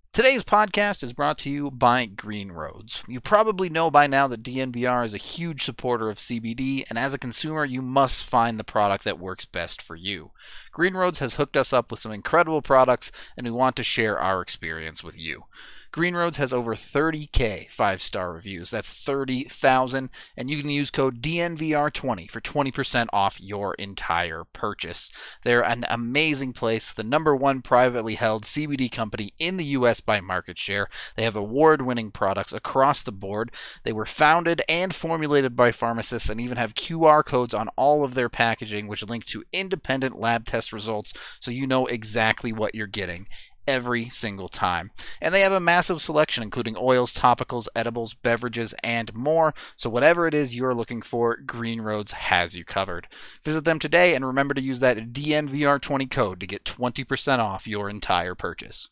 Today's podcast is brought to you by Green Roads. You probably know by now that DNVR is a huge supporter of CBD, and as a consumer, you must find the product that works best for you. Green Roads has hooked us up with some incredible products, and we want to share our experience with you. Green Roads has over 30K 5-star reviews. That's 30,000. And you can use code DNVR20 for 20% off your entire purchase. They're an amazing place, the number one privately held CBD company in the U.S. by market share. They have award-winning products across the board. They were founded and formulated by pharmacists and even have QR codes on all of their packaging, which link to independent lab test results so you know exactly what you're getting every single time. And they have a massive selection, including oils, topicals, edibles, beverages, and more. So whatever it is you're looking for, Green Roads has you covered. Visit them today and remember to use that DNVR20 code to get 20% off your entire purchase.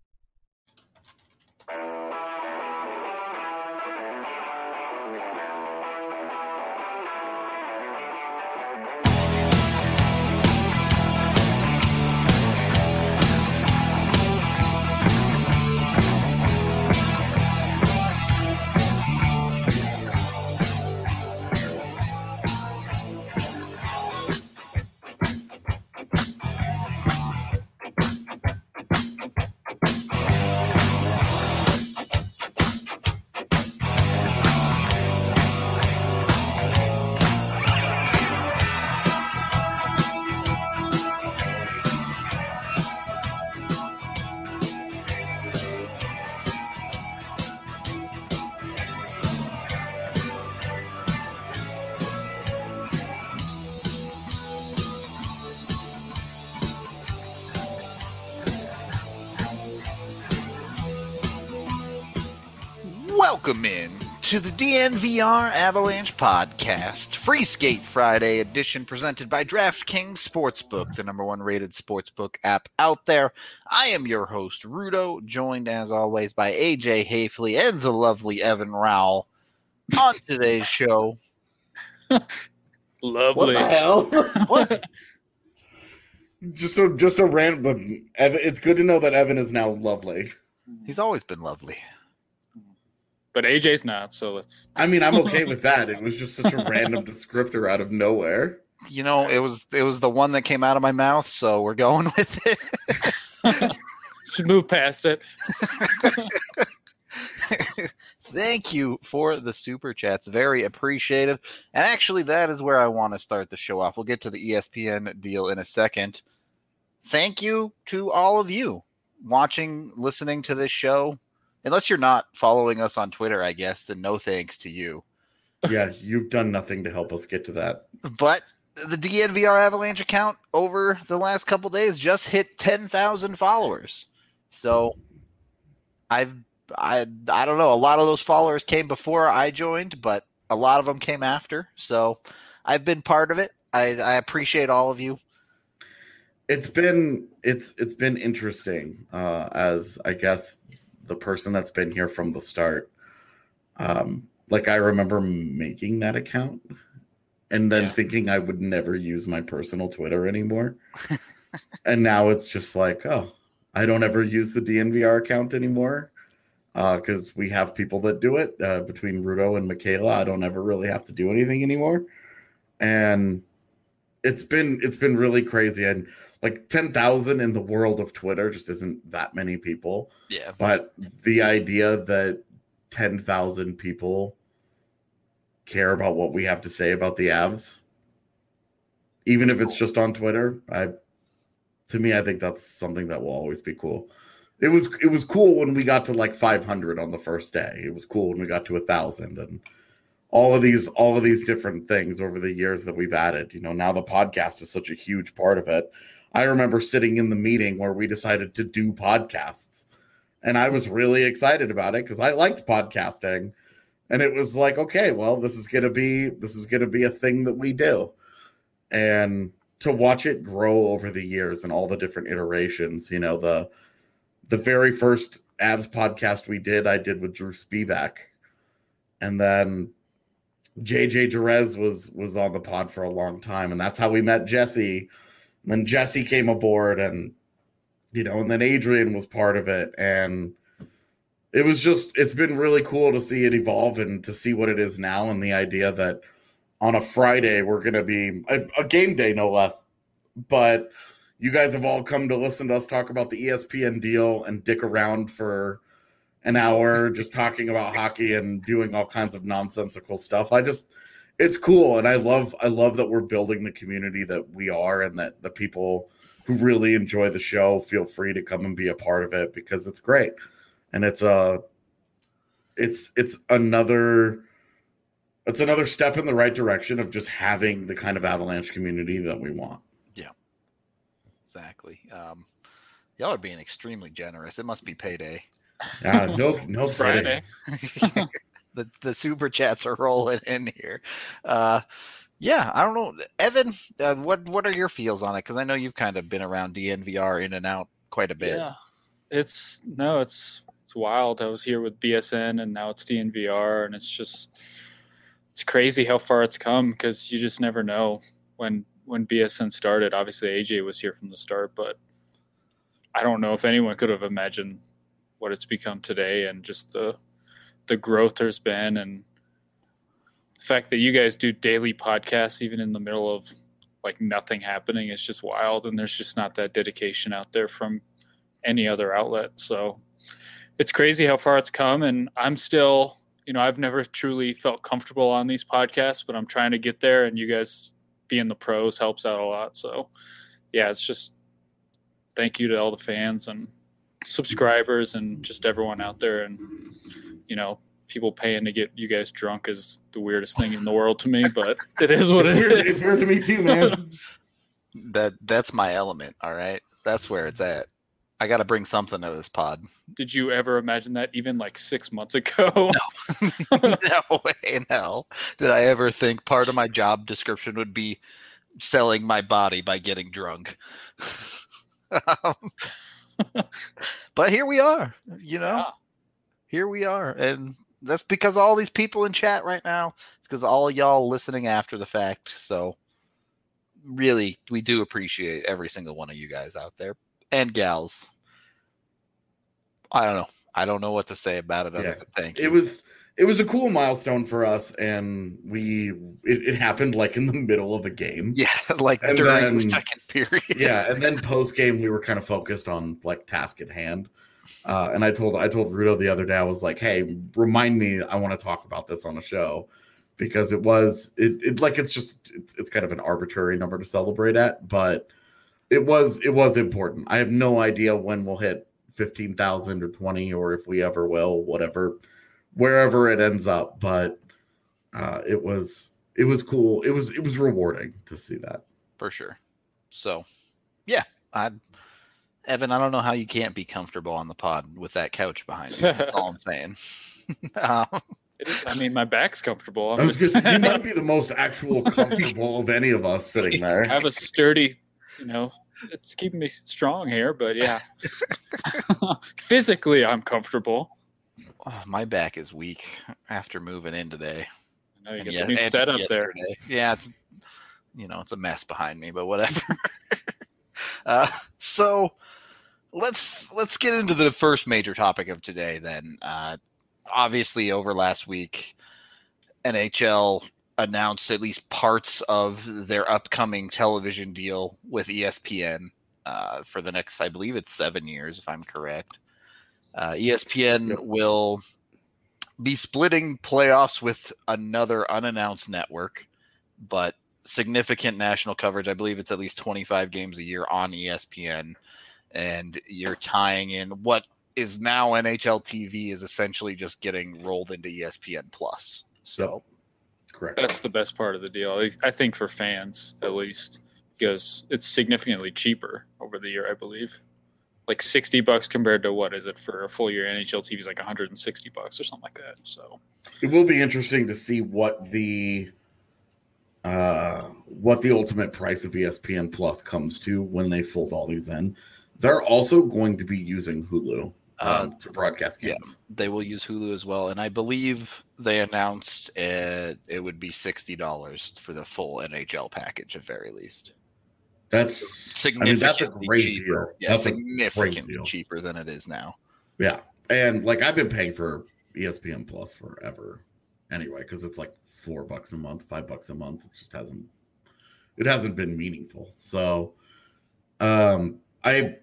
Welcome in to the DNVR Avalanche Podcast, Free Skate Friday edition, presented by DraftKings Sportsbook, the number one rated sportsbook app out there. I am your host, Rudo, joined as always by AJ Hafley and the lovely Evan Rowell. On today's show, Lovely. What the hell? what? just a random. Evan, it's good to know that Evan is now lovely. He's always been lovely. But AJ's not, so let's. I mean, I'm okay with that. It was just such a random descriptor out of nowhere. You know, it was the one that came out of my mouth, so we're going with it. Should move past it. Thank you for the super chats. Very appreciated. And actually, that is where I want to start the show off. We'll get to the ESPN deal in a second. Thank you to all of you watching, listening to this show. Unless you're not following us on Twitter, I guess, then no thanks to you. Yeah, you've done nothing to help us get to that. But the DNVR Avalanche account over the last couple days just hit 10,000 followers. So I don't know. A lot of those followers came before I joined, but a lot of them came after. So I've been part of it. I appreciate all of you. It's been interesting as I guess the person that's been here from the start. Like I remember making that account and then thinking I would never use my personal Twitter anymore. And now it's just like, oh, I don't ever use the DNVR account anymore. Because we have people that do it between Rudo and Michaela. I don't ever really have to do anything anymore. And it's been really crazy. And like 10,000 in the world of Twitter just isn't that many people. Yeah. But the idea that 10,000 people care about what we have to say about the Avs, even if it's just on Twitter, I think that's something that will always be cool. It was cool when we got to like 500 on the first day. It was cool when we got to 1,000 and all of these different things over the years that we've added. You know, now the podcast is such a huge part of it. I remember sitting in the meeting where we decided to do podcasts, and I was really excited about it because I liked podcasting, and it was like, okay, well, this is gonna be a thing that we do, and to watch it grow over the years and all the different iterations. You know, the very first Avs podcast I did with Drew Spivak, and then JJ Jerez was on the pod for a long time, and that's how we met Jesse. And then Jesse came aboard, and and then Adrian was part of it, and it's been really cool to see it evolve and to see what it is now, and the idea that on a Friday we're going to be a game day, no less. But you guys have all come to listen to us talk about the ESPN deal and dick around for an hour just talking about hockey and doing all kinds of nonsensical stuff. It's cool, and I love that we're building the community that we are, and that the people who really enjoy the show feel free to come and be a part of it, because it's great. And it's another step in the right direction of just having the kind of Avalanche community that we want. Yeah, exactly. Y'all are being extremely generous. It must be payday. No Friday. The super chats are rolling in here. Yeah, I don't know, Evan. What are your feels on it? Because I know you've kind of been around DNVR in and out quite a bit. Yeah, it's wild. I was here with BSN, and now it's DNVR, and it's crazy how far it's come, because you just never know. When BSN started, obviously AJ was here from the start, but I don't know if anyone could have imagined what it's become today, and just the growth there's been, and the fact that you guys do daily podcasts even in the middle of like nothing happening is just wild. And there's just not that dedication out there from any other outlet. So it's crazy how far it's come. And I'm still, I've never truly felt comfortable on these podcasts, but I'm trying to get there, and you guys being the pros helps out a lot. So yeah, it's just thank you to all the fans and subscribers and just everyone out there. And, people paying to get you guys drunk is the weirdest thing in the world to me, but it is what it is. It's weird to me too, man. That's my element. All right. That's where it's at. I got to bring something to this pod. Did you ever imagine that even like 6 months ago? No. No way in hell did I ever think part of my job description would be selling my body by getting drunk. But here we are, Yeah. Here we are. And that's because all these people in chat right now. It's because all y'all listening after the fact. So really, we do appreciate every single one of you guys out there and gals. I don't know. I don't know what to say about it other than thank you. It was a cool milestone for us, and it happened like in the middle of a game. Yeah, like and during then, the second period. Yeah, and then post game we were kind of focused on like task at hand. And I told Rudo the other day, I was like, hey, remind me, I want to talk about this on a show, because it's kind of an arbitrary number to celebrate at, but it was important. I have no idea when we'll hit 15,000 or 20, or if we ever will, wherever it ends up. But it was cool. It was rewarding to see that, for sure. So yeah, Evan, I don't know how you can't be comfortable on the pod with that couch behind you. That's all I'm saying. My back's comfortable. You might be the most actual comfortable of any of us sitting there. I have a sturdy, it's keeping me strong here, but yeah. Physically, I'm comfortable. Oh, my back is weak after moving in today. I know you got the new setup there. Yeah, it's it's a mess behind me, but whatever. So let's get into the first major topic of today then. Obviously, over last week, NHL announced at least parts of their upcoming television deal with ESPN for the next, I believe it's 7 years, if I'm correct. ESPN will be splitting playoffs with another unannounced network, but significant national coverage. I believe it's at least 25 games a year on ESPN, and you're tying in what is now NHL TV is essentially just getting rolled into ESPN Plus. So, correct. That's the best part of the deal, I think, for fans at least, because it's significantly cheaper over the year. I believe, like $60 compared to what is it for a full year? NHL TV is like $160 or something like that. So it will be interesting to see what the ultimate price of ESPN Plus comes to when they fold all these in. They're also going to be using Hulu to broadcast games. Yeah, they will use Hulu as well, and I believe they announced it would be $60 for the full NHL package at very least. That's significantly cheaper. Deal. Yeah, that's significantly cheaper than it is now. Yeah, And like I've been paying for ESPN Plus forever anyway, because it's like $4 a month, $5 a month. It just hasn't been meaningful. So I'm a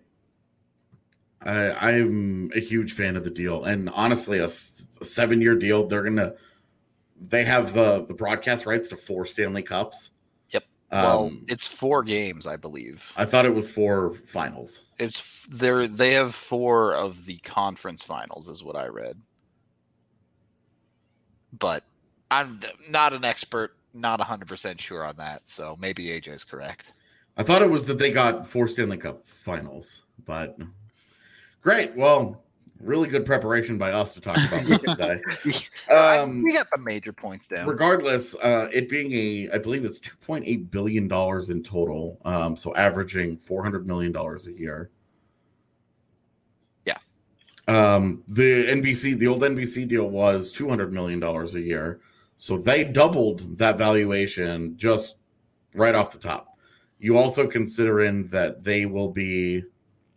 huge fan of the deal. And honestly, a 7-year deal, they have the broadcast rights to 4 Stanley Cups. Well, it's 4 games, I believe. I thought it was 4 finals. They have 4 of the conference finals, is what I read. But I'm not an expert, not 100% sure on that, so maybe AJ's correct. I thought it was that they got 4 Stanley Cup finals, but great. Well, really good preparation by us to talk about this today. We got the major points down. Regardless, it being I believe it's $2.8 billion in total, so averaging $400 million a year. Yeah. The old NBC deal was $200 million a year, so they doubled that valuation just right off the top. You also consider in that they will be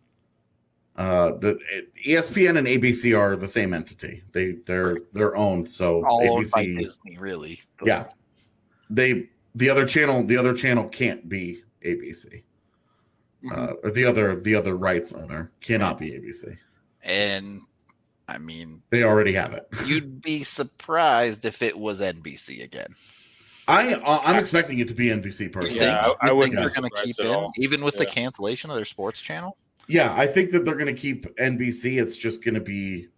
the ESPN and ABC are the same entity. They're owned. So all ABC, owned by Disney, really. Yeah. The other channel can't be ABC. Or the other rights owner cannot be ABC. And I mean, they already have it. You'd be surprised if it was NBC again. I'm expecting it to be NBC personally. Yeah, I wouldn't think they're going to keep in, even with the cancellation of their sports channel. Yeah, I think that they're going to keep NBC. It's just going to be,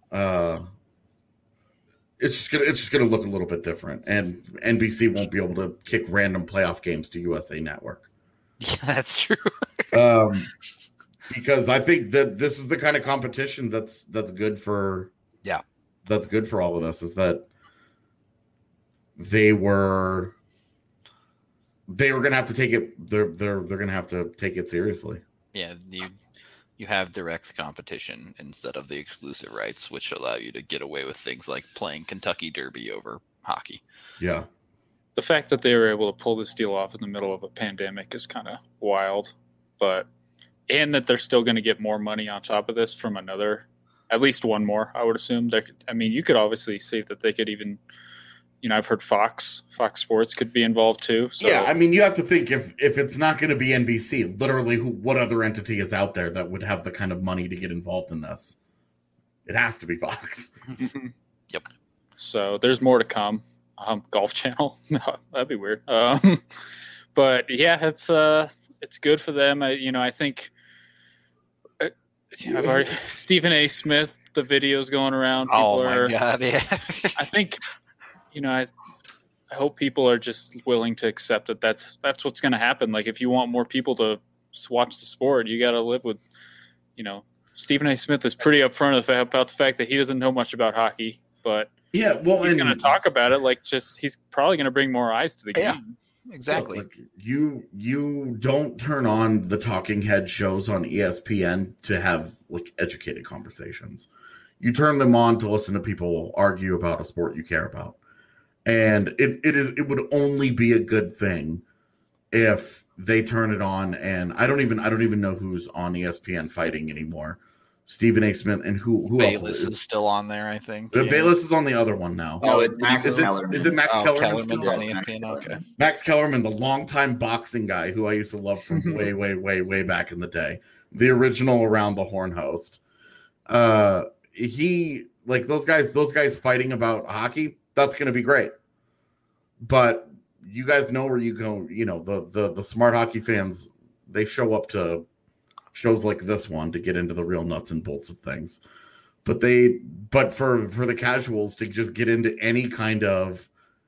it's just going to look a little bit different, and NBC won't be able to kick random playoff games to USA Network. Yeah, that's true. Because I think that this is the kind of competition that's good for. Yeah, that's good for all of us. Is that they were going to have to take it. They're going to have to take it seriously. Yeah, you have direct competition instead of the exclusive rights, which allow you to get away with things like playing Kentucky Derby over hockey. Yeah. The fact that they were able to pull this deal off in the middle of a pandemic is kind of wild, and that they're still going to get more money on top of this from at least one more, I would assume. You could obviously see that they could even, I've heard Fox Sports could be involved too. So. Yeah, you have to think if it's not going to be NBC, literally, what other entity is out there that would have the kind of money to get involved in this? It has to be Fox. Yep. So there's more to come. Golf Channel, no, that'd be weird. But yeah, it's good for them. I think I've already Stephen A. Smith. The videos going around. Oh my god! Yeah. I think. I hope people are just willing to accept that that's what's going to happen. Like, if you want more people to watch the sport, you got to live with, Stephen A. Smith is pretty upfront about the fact that he doesn't know much about hockey, but yeah, well, he's going to talk about it. He's probably going to bring more eyes to the game. Exactly. Look, you don't turn on the talking head shows on ESPN to have educated conversations. You turn them on to listen to people argue about a sport you care about. And it would only be a good thing if they turn it on. And I don't even know who's on ESPN fighting anymore. Stephen A. Smith and who Bayless else is still on there, I think. Bayless is on the other one now. Oh, it's Max Kellerman. Is it Max Kellerman? Kellerman's on ESPN. Okay. Max Kellerman, the longtime boxing guy who I used to love from way back in the day, the original Around the Horn host. He those guys fighting about hockey. That's going to be great. But you guys know where you go. The smart hockey fans, they show up to shows like this one to get into the real nuts and bolts of things. But for the casuals to just get into any kind of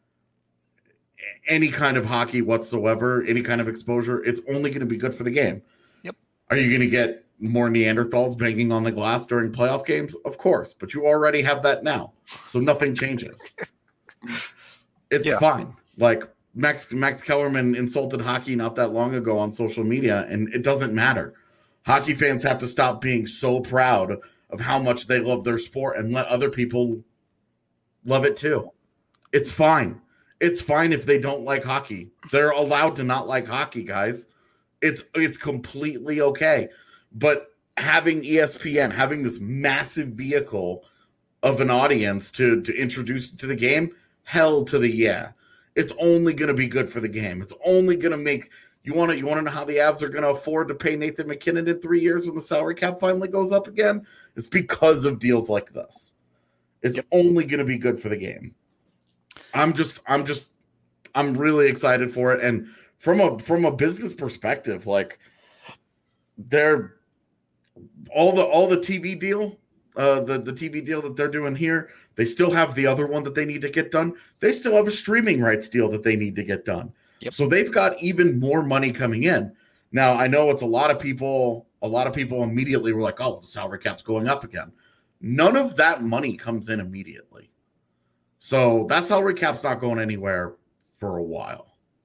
hockey whatsoever, any kind of exposure, it's only going to be good for the game. Yep. Are you going to get more Neanderthals banging on the glass during playoff games? Of course, but you already have that now, so nothing changes. It's fine. Max Kellerman insulted hockey not that long ago on social media, and it doesn't matter. Hockey fans have to stop being so proud of how much they love their sport and let other people love it too. It's fine. It's fine if they don't like hockey. They're allowed to not like hockey, guys. It's completely okay. But having ESPN, having this massive vehicle of an audience to introduce to the game, hell to the yeah. It's only going to be good for the game. It's only going to make you want to know how the Avs are going to afford to pay Nathan McKinnon in 3 years when the salary cap finally goes up again? It's because of deals like this. It's only going to be good for the game. I'm really excited for it, and from a business perspective, like they're all the TV deal, the TV deal that they're doing here. They still have the other one that they need to get done. They still have a streaming rights deal that they need to get done. Yep. So they've got even more money coming in. Now, I know it's a lot of people immediately were like, oh, the salary cap's going up again. None of that money comes in immediately. So that salary cap's not going anywhere for a while.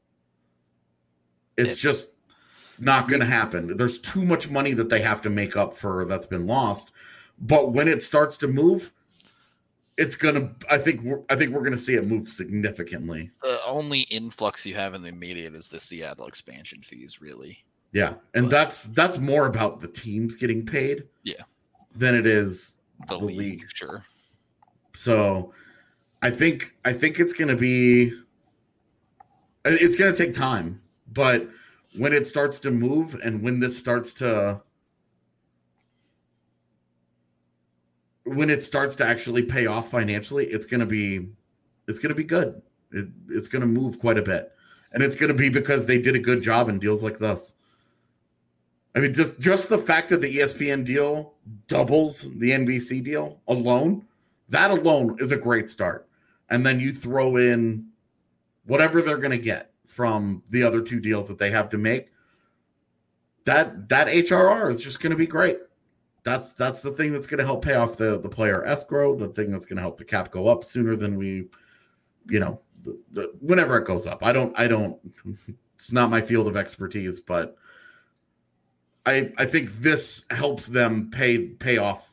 It's just not going to happen. There's too much money that they have to make up for that's been lost. But when it starts to move, it's gonna. I think we're gonna see it move significantly. The only influx you have in the immediate is the Seattle expansion fees, really. Yeah, and that's more about the teams getting paid. Yeah, than it is the league. Sure. So, I think it's gonna be. It's gonna take time, but when it starts to move and when this starts to. When it starts to actually pay off financially, it's going to be good. It's going to move quite a bit, and it's going to be because they did a good job in deals like this. I mean, just the fact that the ESPN deal doubles the NBC deal alone, that alone is a great start. And then you throw in whatever they're going to get from the other two deals that they have to make. That HRR is just going to be great. That's the thing that's going to help pay off the player escrow, the thing that's going to help the cap go up sooner than we, whenever it goes up. I don't, it's not my field of expertise, but I think this helps them pay off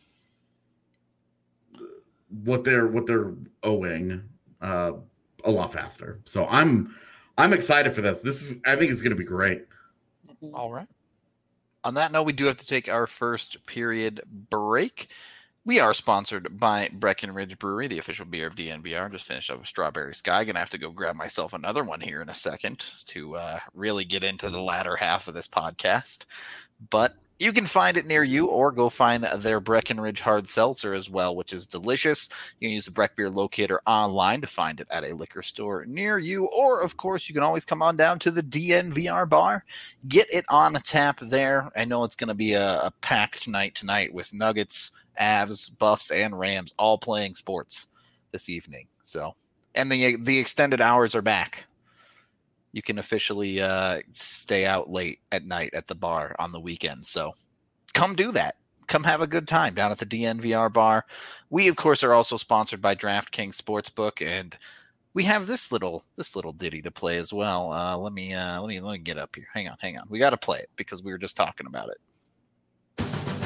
what they're owing a lot faster. So I'm excited for this. I think it's going to be great. All right. On that note, we do have to take our first period break. We are sponsored by Breckenridge Brewery, the official beer of DNVR. Just finished up with Strawberry Sky. Gonna have to go grab myself another one here in a second to really get into the latter half of this podcast. But you can find it near you, or go find their Breckenridge Hard Seltzer as well, which is delicious. You can use the Breck Beer Locator online to find it at a liquor store near you, or, of course, you can always come on down to the DNVR bar. Get it on tap there. I know it's going to be a packed night tonight with Nuggets, Avs, Buffs, and Rams all playing sports this evening. So, and the extended hours are back. You can officially stay out late at night at the bar on the weekend. So come do that. Come have a good time down at the DNVR bar. We, of course, are also sponsored by DraftKings Sportsbook, and we have this little ditty to play as well. Let me get up here. Hang on. We got to play it because we were just talking about it.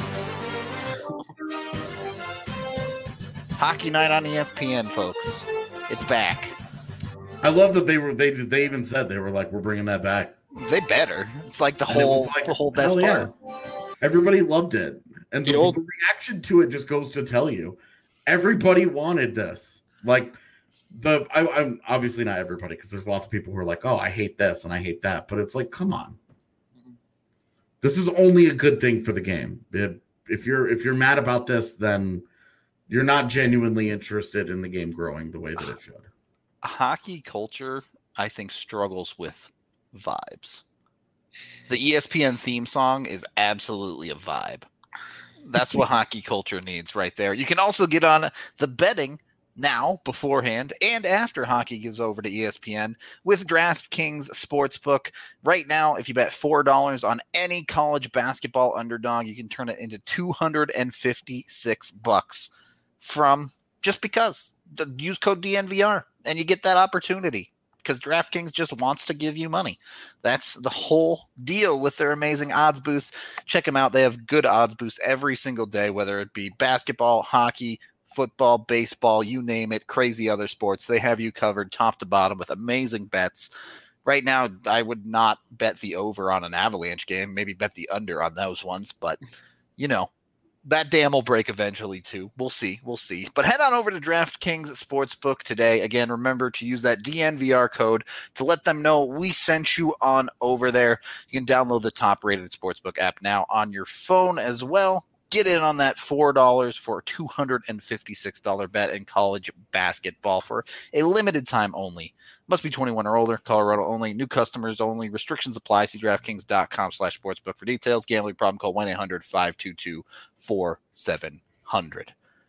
Hockey night on ESPN, folks. It's back. I love that they even said they were like, we're bringing that back. They better. It's like the whole best part. Everybody loved it. And the reaction to it just goes to tell you, everybody wanted this. Like I'm obviously not everybody, because there's lots of people who are like, oh, I hate this and I hate that. But it's like, come on. This is only a good thing for the game. If you're mad about this, then you're not genuinely interested in the game growing the way that it should. Hockey culture, I think, struggles with vibes. The ESPN theme song is absolutely a vibe. That's what hockey culture needs right there. You can also get on the betting now, beforehand, and after hockey gives over to ESPN with DraftKings Sportsbook. Right now, if you bet $4 on any college basketball underdog, you can turn it into $256 from just because. Use code DNVR. And you get that opportunity because DraftKings just wants to give you money. That's the whole deal with their amazing odds boosts. Check them out. They have good odds boosts every single day, whether it be basketball, hockey, football, baseball, you name it, crazy other sports. They have you covered top to bottom with amazing bets. Right now, I would not bet the over on an Avalanche game, maybe bet the under on those ones, but that dam will break eventually too. We'll see. But head on over to DraftKings Sportsbook today. Again, remember to use that DNVR code to let them know we sent you on over there. You can download the top-rated Sportsbook app now on your phone as well. Get in on that $4 for a $256 bet in college basketball for a limited time only. Must be 21 or older. Colorado only. New customers only. Restrictions apply. See DraftKings.com/sportsbook for details. Gambling problem? Call 1-800-522-4700.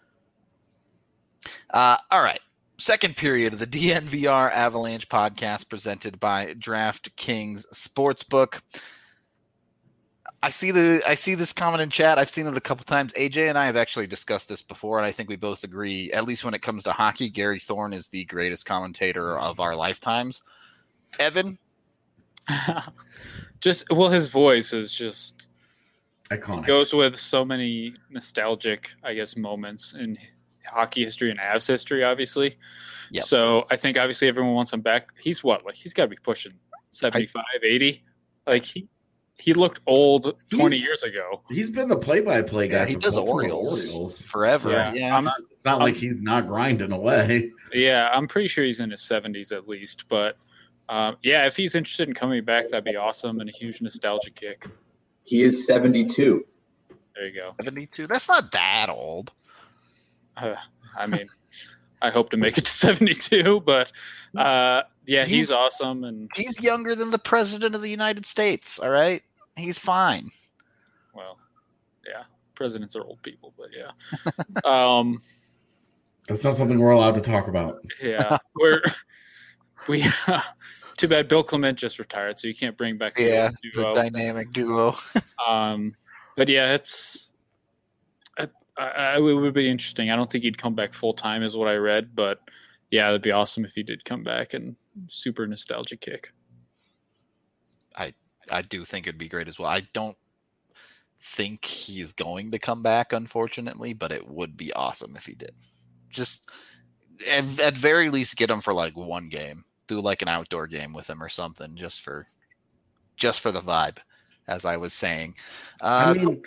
All right. Second period of the DNVR Avalanche podcast presented by DraftKings Sportsbook. I see this comment in chat. I've seen it a couple times. AJ and I have actually discussed this before, and I think we both agree, at least when it comes to hockey, Gary Thorne is the greatest commentator of our lifetimes. Evan? His voice is just iconic. It goes with so many nostalgic, I guess, moments in hockey history and Avs history, obviously. Yep. So I think obviously everyone wants him back. He's he's got to be pushing 75, 80. He looked old 20 years ago. He's been the play-by-play guy. Yeah, he does Orioles forever. Yeah. It's not like he's not grinding away. Yeah, I'm pretty sure he's in his 70s at least. But, if he's interested in coming back, that'd be awesome and a huge nostalgia kick. He is 72. There you go. 72? That's not that old. I mean, I hope to make it to 72, but he's awesome. And he's younger than the president of the United States, all right? He's fine. Well, yeah, presidents are old people, but yeah. That's not something we're allowed to talk about. Yeah, we too bad Bill Clement just retired, so you can't bring back the dynamic duo. But yeah, it would be interesting. I don't think he'd come back full time, is what I read, but yeah, it'd be awesome if he did come back and super nostalgia kick. I do think it'd be great as well. I don't think he's going to come back, unfortunately, but it would be awesome if he did. Just at very least get him for one game. Do an outdoor game with him or something, just for the vibe, as I was saying. They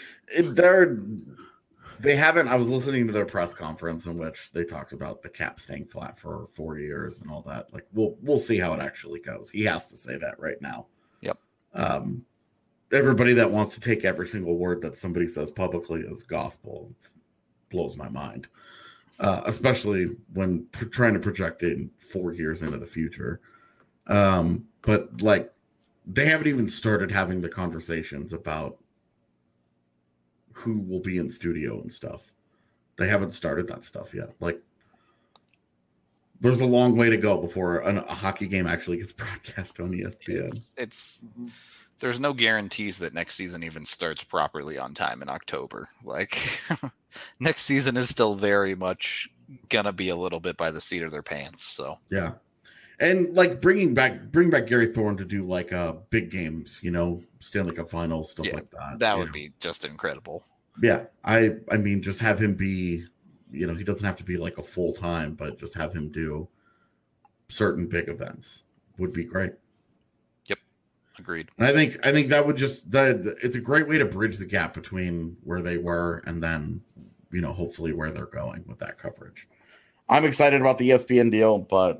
haven't. I was listening to their press conference in which they talked about the cap staying flat for 4 years and all that. We'll see how it actually goes. He has to say that right now. Yep. Everybody that wants to take every single word that somebody says publicly as gospel blows my mind, especially when trying to project it 4 years into the future. But they haven't even started having the conversations about who will be in studio and stuff. They haven't started that stuff yet. There's a long way to go before a hockey game actually gets broadcast on ESPN. There's no guarantees that next season even starts properly on time in October. Next season is still very much gonna be a little bit by the seat of their pants. So yeah, and bring back Gary Thorne to do big games, Stanley Cup Finals, stuff like that. That would be just incredible. Yeah, I mean, just have him be, he doesn't have to be a full time, but just have him do certain big events would be great. Yep, agreed. And I think that would it's a great way to bridge the gap between where they were and then, hopefully where they're going with that coverage. I'm excited about the ESPN deal, but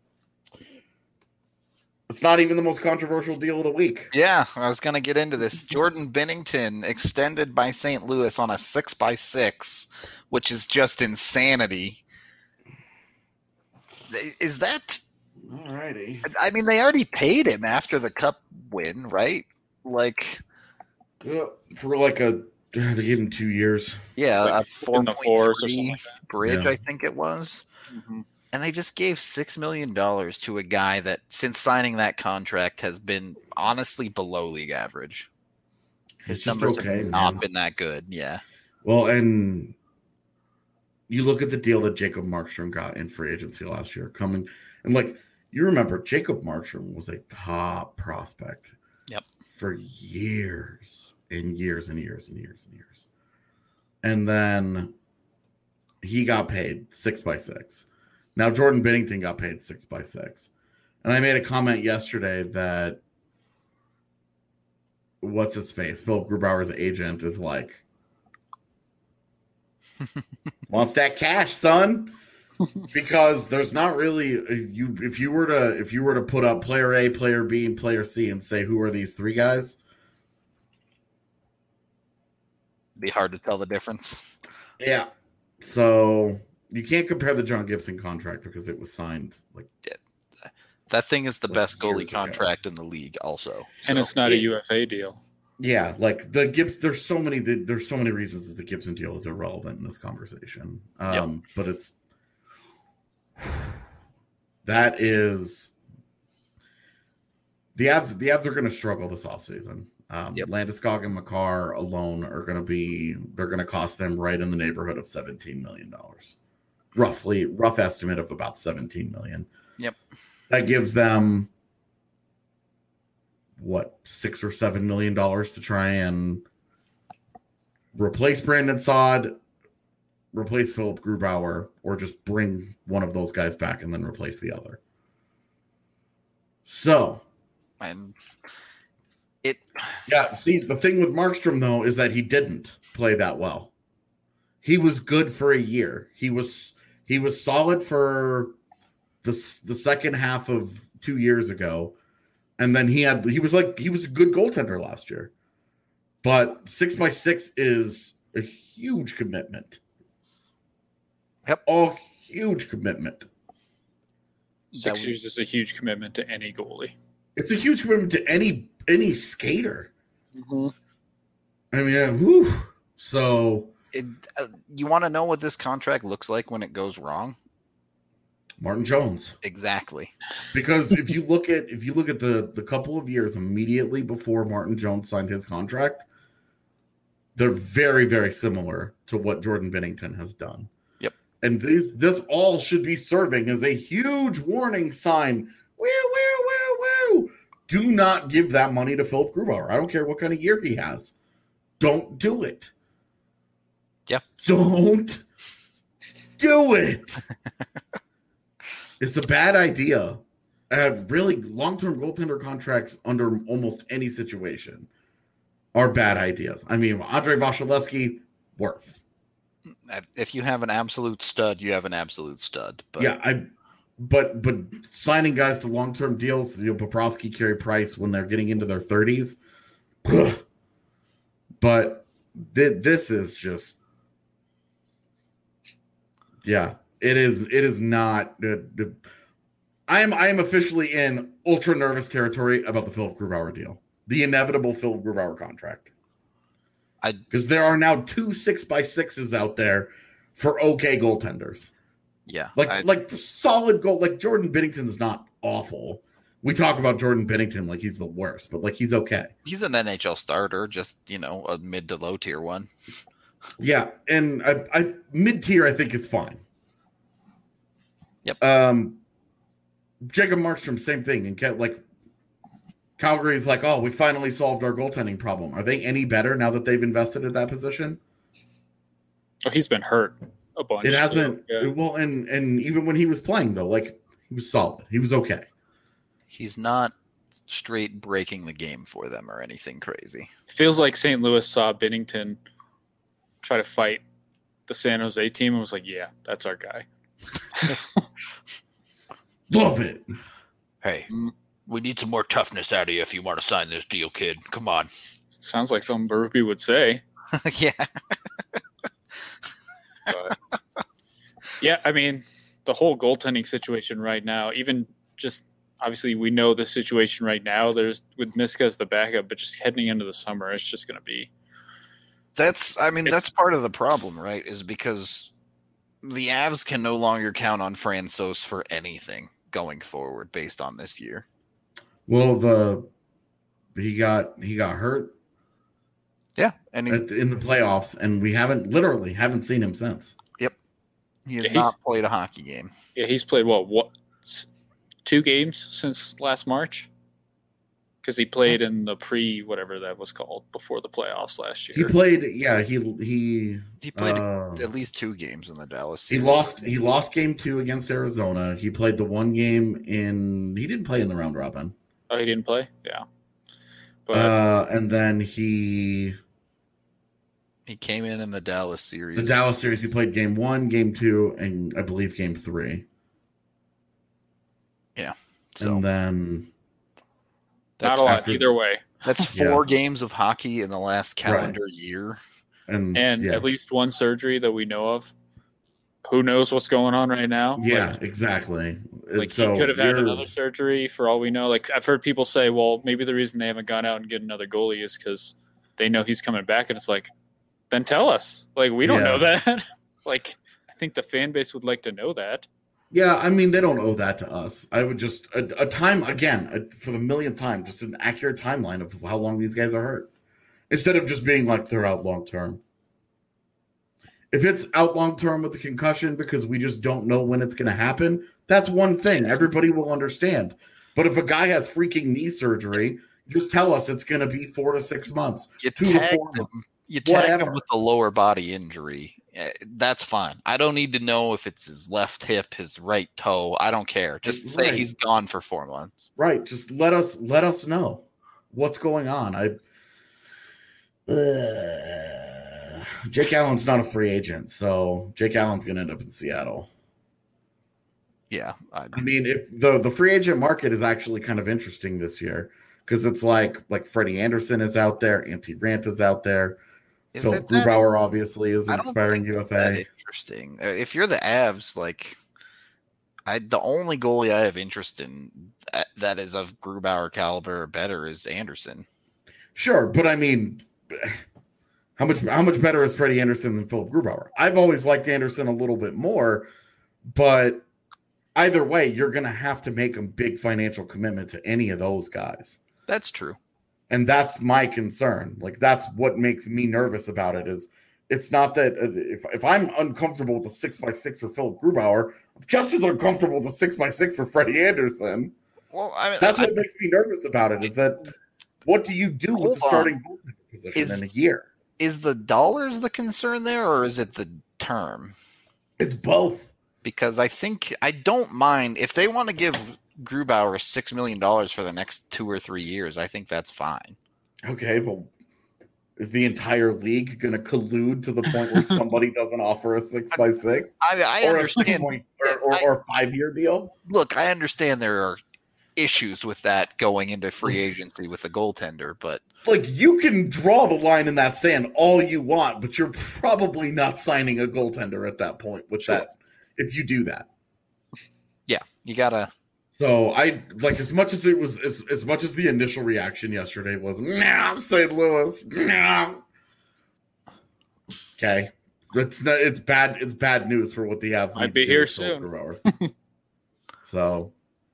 it's not even the most controversial deal of the week. Yeah, I was going to get into this. Jordan Binnington extended by St. Louis on a 6x6, which is just insanity. Is that... All righty. I mean, they already paid him after the Cup win, right? Yeah, for they gave him 2 years. Yeah, a 4.3 bridge, yeah. I think it was. Mm-hmm. And they just gave $6 million to a guy that, since signing that contract, has been honestly below league average. His numbers have not been that good. Yeah. Well, and you look at the deal that Jacob Markstrom got in free agency last year coming, and you remember Jacob Markstrom was a top prospect. Yep. For years and years and years and years and years. And then he got paid 6x6. Now Jordan Binnington got paid 6x6. And I made a comment yesterday that what's his face? Philip Grubauer's agent is Wants that cash, son. Because there's not really if you were to put up player A, player B, and player C and say who are these three guys, Be hard to tell the difference. yeah. So you can't compare the John Gibson contract because it was signed like That thing is the Like best goalie years ago. contract in the league, also. And it's not a UFA deal. yeah, like the Gibbs. There's so many reasons that the Gibson deal is irrelevant in this conversation. But it's that is the Avs. The Avs are going to struggle this offseason. Landeskog and Makar alone are going to cost them right in the neighborhood of $17 million. Rough estimate of about $17 million. Yep. That gives them what, $6 or $7 million to try and replace Brandon Saad, replace Philip Grubauer, or just bring one of those guys back and then replace the other. So, And yeah, see, the thing with Markstrom, though, is that he didn't play that well. He was good for a year. He was solid for the second half of 2 years ago. And then he was a good goaltender last year. But 6x6 is a huge commitment. Yep. A huge commitment. 6 years is a huge commitment to any goalie. It's a huge commitment to any skater. Mm-hmm. I mean, whew. So you want to know what this contract looks like when it goes wrong? Martin Jones. Exactly. Because if you look at the couple of years immediately before Martin Jones signed his contract, they're very, very similar to what Jordan Binnington has done. Yep. And this all should be serving as a huge warning sign. Woo. Do not give that money to Philip Grubauer. I don't care what kind of year he has. Don't do it. Yep. Don't do it. It's a bad idea. Really, long-term goaltender contracts under almost any situation are bad ideas. I mean, Andrei Vasilevsky, worth. If you have an absolute stud, you have an absolute stud. But Yeah, but signing guys to long-term deals, Bobrovsky, Carey Price, when they're getting into their 30s. But this is just, yeah, it is not. I am officially in ultra nervous territory about the Philip Grubauer deal, the inevitable Philip Grubauer contract. Because there are now 2 6x6s out there for okay goaltenders. Yeah. Like solid goal. Like Jordan Binnington's not awful. We talk about Jordan Binnington like he's the worst, but like he's okay. He's an NHL starter, just, a mid to low tier one. Yeah, and I mid tier I think is fine. Yep. Jacob Markstrom, same thing. And like Calgary's like, oh, we finally solved our goaltending problem. Are they any better now that they've invested at that position? Oh, he's been hurt a bunch. It hasn't. Yeah. Well, and even when he was playing though, like he was solid. He was okay. He's not straight breaking the game for them or anything crazy. Feels like St. Louis saw Binnington try to fight the San Jose team and was like, yeah, that's our guy. Love it. Hey, we need some more toughness out of you if you want to sign this deal, kid. Come on. Sounds like something Berube would say. Yeah. But, yeah, I mean, the whole goaltending situation right now, even just obviously we know the situation right now. There's with Miska as the backup, but just heading into the summer, it's just going to be. That's part of the problem, right? Is because the Avs can no longer count on Francouz for anything going forward based on this year. Well, he got hurt. Yeah, and in the playoffs, and we literally haven't seen him since. Yep, he has not played a hockey game. Yeah, he's played what 2 games since last March, because he played in the whatever that was called before the playoffs last year. He played. Yeah, he played at least 2 games in the Dallas series. He lost game 2 against Arizona. He played the 1 game he didn't play in the round robin. Oh, he didn't play. Yeah, but and then he He came in the Dallas series. The Dallas series, he played game 1, game 2, and I believe game 3. Yeah. So And then Not a lot after- either way. that's 4 games of hockey in the last calendar year. And yeah. at least one surgery that we know of. Who knows what's going on right now? Yeah, Like, exactly. Like So he could have had you're- another surgery for all we know. Like I've heard people say, well, maybe the reason they haven't gone out and get another goalie is because they know he's coming back. And it's like, then tell us. Like we don't know that. Like I think the fan base would like to know that. Yeah, I mean, they don't owe that to us. I would just a time again for the millionth time, just an accurate timeline of how long these guys are hurt, instead of just being like they're out long term. If it's out long term with the concussion because we just don't know when it's going to happen, that's one thing. Everybody will understand. But if a guy has freaking knee surgery, just tell us it's going to be 4 to 6 months. You 2 to tag 4 him. months. You tag Whatever. him with a lower body injury. That's fine. I don't need to know if it's his left hip, his right toe. I don't care. Just say Right. he's gone for 4 months. Right. Just let us know what's going on. Jake Allen's not a free agent, so Jake Allen's going to end up in Seattle. Yeah. I mean, the free agent market is actually kind of interesting this year because it's like Freddie Anderson is out there, Antti Rant is out there. Is So it that- Grubauer obviously is I an don't expiring think it's UFA. that interesting. If you're the Avs, like, the only goalie I have interest in that is of Grubauer caliber or better is Anderson. Sure, but I mean, how much better is Freddie Anderson than Philip Grubauer? I've always liked Anderson a little bit more, but either way, you're going to have to make a big financial commitment to any of those guys. That's true. And that's my concern. Like, that's what makes me nervous about it is it's not that if I'm uncomfortable with the 6x6 for Philip Grubauer, I'm just as uncomfortable with the 6x6 for Freddie Anderson. Well, I mean, That's what makes me nervous about it is that what do you do with Hold the starting on. goaltender position in a year? is the dollars the concern there, or is it the term? It's both. Because I don't mind if they want to give Grubauer $6 million for the next 2 or 3 years. I think that's fine. Okay, well, is the entire league going to collude to the point where somebody doesn't offer a 6x6? I Or a understand. 6 or 5-year deal? Look, I understand there are issues with that going into free agency with the goaltender, but Like, you can draw the line in that sand all you want, but you're probably not signing a goaltender at that point with that if you do that. yeah, you gotta. So I like as much as it was as much as the initial reaction yesterday was nah, St. Louis, nah. Okay. It's bad news for what the Avs Might need be to do here with Philip soon. Grubauer. So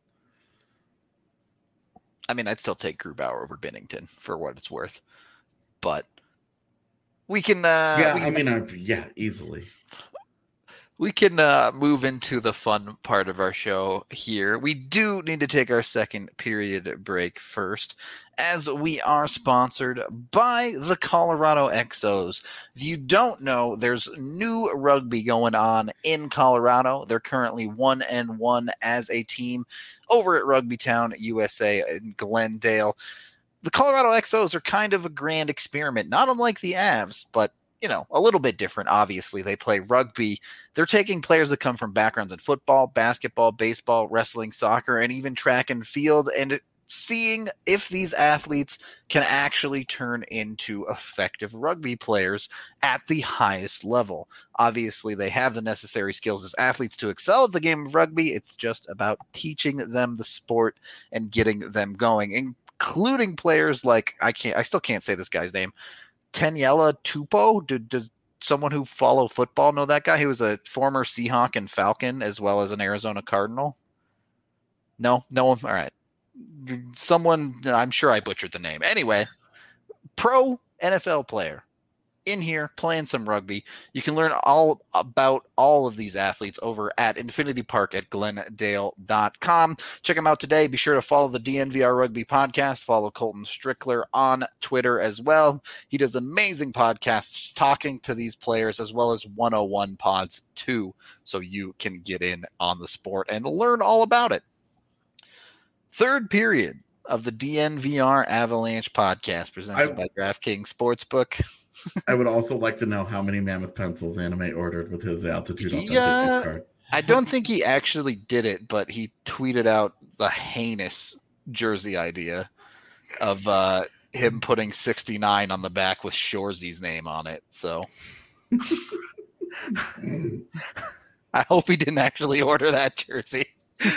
I mean, I'd still take Grubauer over Binnington for what it's worth, but we can. easily. We can move into the fun part of our show here. We do need to take our second period break first, as we are sponsored by the Colorado Exos. If you don't know, there's new rugby going on in Colorado. They're currently 1-1 as a team over at Rugby Town USA in Glendale. The Colorado Exos are kind of a grand experiment, not unlike the Avs, but a little bit different. Obviously, they play rugby. They're taking players that come from backgrounds in football, basketball, baseball, wrestling, soccer, and even track and field, and seeing if these athletes can actually turn into effective rugby players at the highest level. Obviously, they have the necessary skills as athletes to excel at the game of rugby. It's just about teaching them the sport and getting them going, including players like I still can't say this guy's name. Taniela Tupou. Does someone who follow football know that guy? He was a former Seahawk and Falcon as well as an Arizona Cardinal. No one. All right. Someone, I'm sure I butchered the name. Anyway, pro NFL player in here playing some rugby. You can learn all about all of these athletes over at Infinity Park at glendale.com. Check them out today. Be sure to follow the DNVR Rugby podcast. Follow Colton Strickler on Twitter as well. He does amazing podcasts talking to these players as well as 101 pods too, so you can get in on the sport and learn all about it. Third period of the DNVR Avalanche podcast presented by DraftKings Sportsbook. I would also like to know how many Mammoth pencils Anime ordered with his altitude Yeah. authentic card. I don't think he actually did it, but he tweeted out the heinous jersey idea of him putting 69 on the back with Shoresy's name on it. So I hope he didn't actually order that jersey.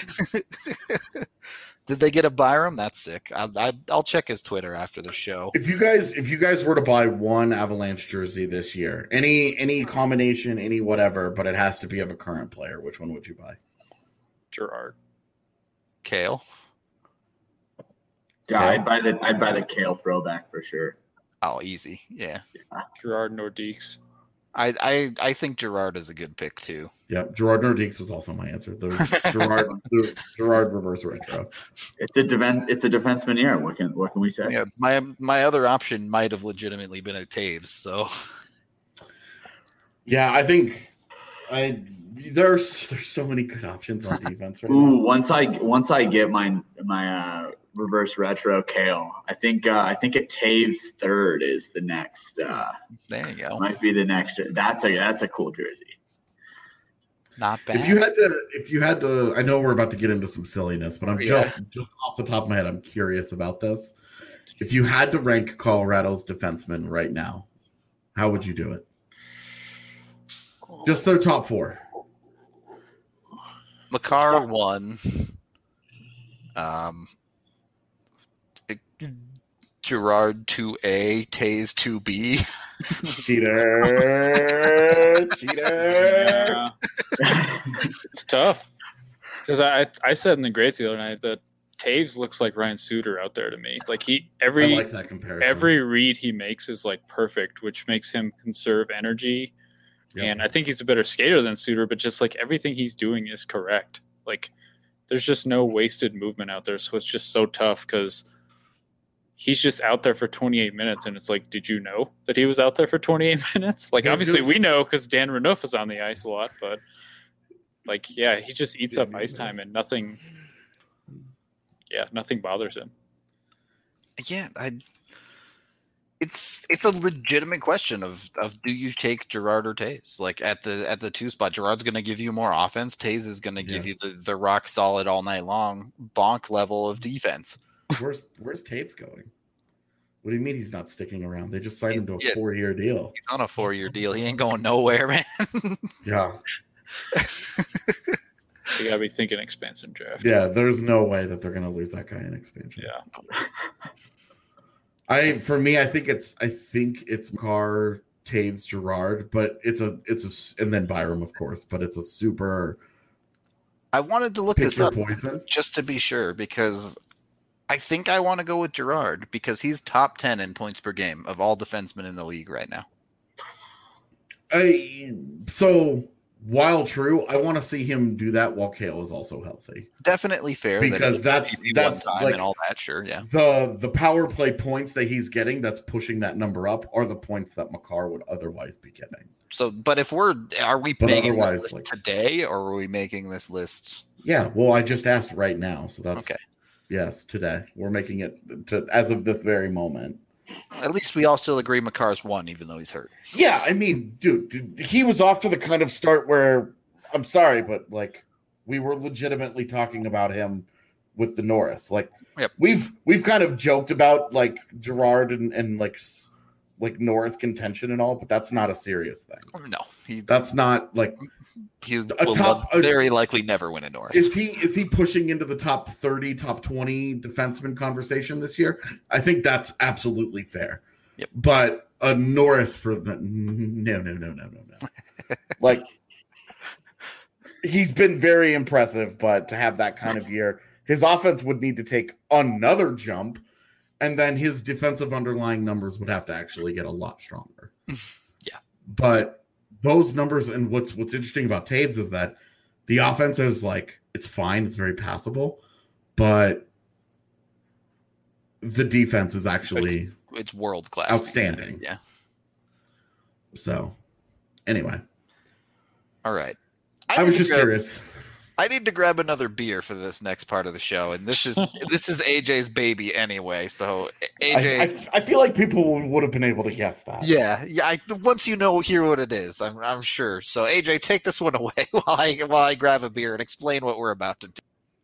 Did they get a Byram? That's sick. I'll check his Twitter after the show. If you guys were to buy one Avalanche jersey this year, any combination, any whatever, but it has to be of a current player, which one would you buy? Gerard. Kale. Yeah, I'd buy the Kale throwback for sure. Oh, easy. Yeah. Gerard Nordiques. I think Gerard is a good pick too. Yeah, Gerard Nordiques was also my answer. The Gerard reverse retro. It's a defenseman era. What can we say? Yeah, my other option might have legitimately been a Taves. So yeah, I think there's so many good options on defense right now. Ooh, once I get my reverse retro Kale, I think a Taves third is the next. There you go. Might be the next. That's a cool jersey. Not bad. If you had to, I know we're about to get into some silliness, but I'm Yeah. just off the top of my head, I'm curious about this. If you had to rank Colorado's defensemen right now, how would you do it? Just their top four. Makar 1. Gerard 2A, Taze 2B. Cheater. Yeah. It's tough because I said in the Greats the other night that Taves looks like Ryan Suter out there to me. Like I like that comparison. every read he makes is like perfect, which makes him conserve energy. Yep. And I think he's a better skater than Suter, but just like everything he's doing is correct. Like there's just no wasted movement out there. So it's just so tough because he's just out there for 28 minutes. And it's like, did you know that he was out there for 28 minutes? Like, obviously we know because Dan Renouf is on the ice a lot, but like, yeah, he just eats up ice time and nothing bothers him. Yeah, it's a legitimate question of do you take Gerard or Taze? Like at the 2 spot, Gerard's going to give you more offense. Taze is going to give you the rock solid all night long bonk level of defense. Where's Taves going? What do you mean he's not sticking around? They just signed him to a 4-year deal. He's on a 4-year deal. He ain't going nowhere, man. Yeah. You gotta be thinking expansion draft. Yeah, there's no way that they're gonna lose that guy in expansion. Yeah. I think it's Makar, Taves, Gerard, but it's a and then Byram, of course, but it's a super. I wanted to look this up poison just to be sure because I think I want to go with Gerard because he's top 10 in points per game of all defensemen in the league right now. So while true, I want to see him do that while Kale is also healthy. Definitely fair because that's like, and all that. Sure, yeah. The power play points that he's getting that's pushing that number up are the points that Makar would otherwise be getting. So, but are we making this list today, or are we making this list? Yeah, well, I just asked right now, so that's okay. Yes, today we're making it as of this very moment. At least we all still agree Makar's 1, even though he's hurt. Yeah, I mean, dude, he was off to the kind of start where I'm sorry, but like we were legitimately talking about him with the Norris. Like, yep. we've kind of joked about like Gerard and like Norris contention and all, but that's not a serious thing. No, that's not like he will very likely never win a Norris. Is he pushing into the top 30, top 20 defenseman conversation this year? I think that's absolutely fair. Yep. But a Norris for the no. Like he's been very impressive, but to have that kind of year, his offense would need to take another jump, and then his defensive underlying numbers would have to actually get a lot stronger. Yeah. But those numbers, and what's interesting about Taves is that the offense is like, it's fine, it's very passable, but the defense is actually it's world class, outstanding. Yeah. So, anyway, all right. I was just curious. I need to grab another beer for this next part of the show, and this is AJ's baby anyway. So AJ, I feel like people would have been able to guess that. yeah. Once you hear what it is, I'm sure. So AJ, take this one away while I grab a beer and explain what we're about to do.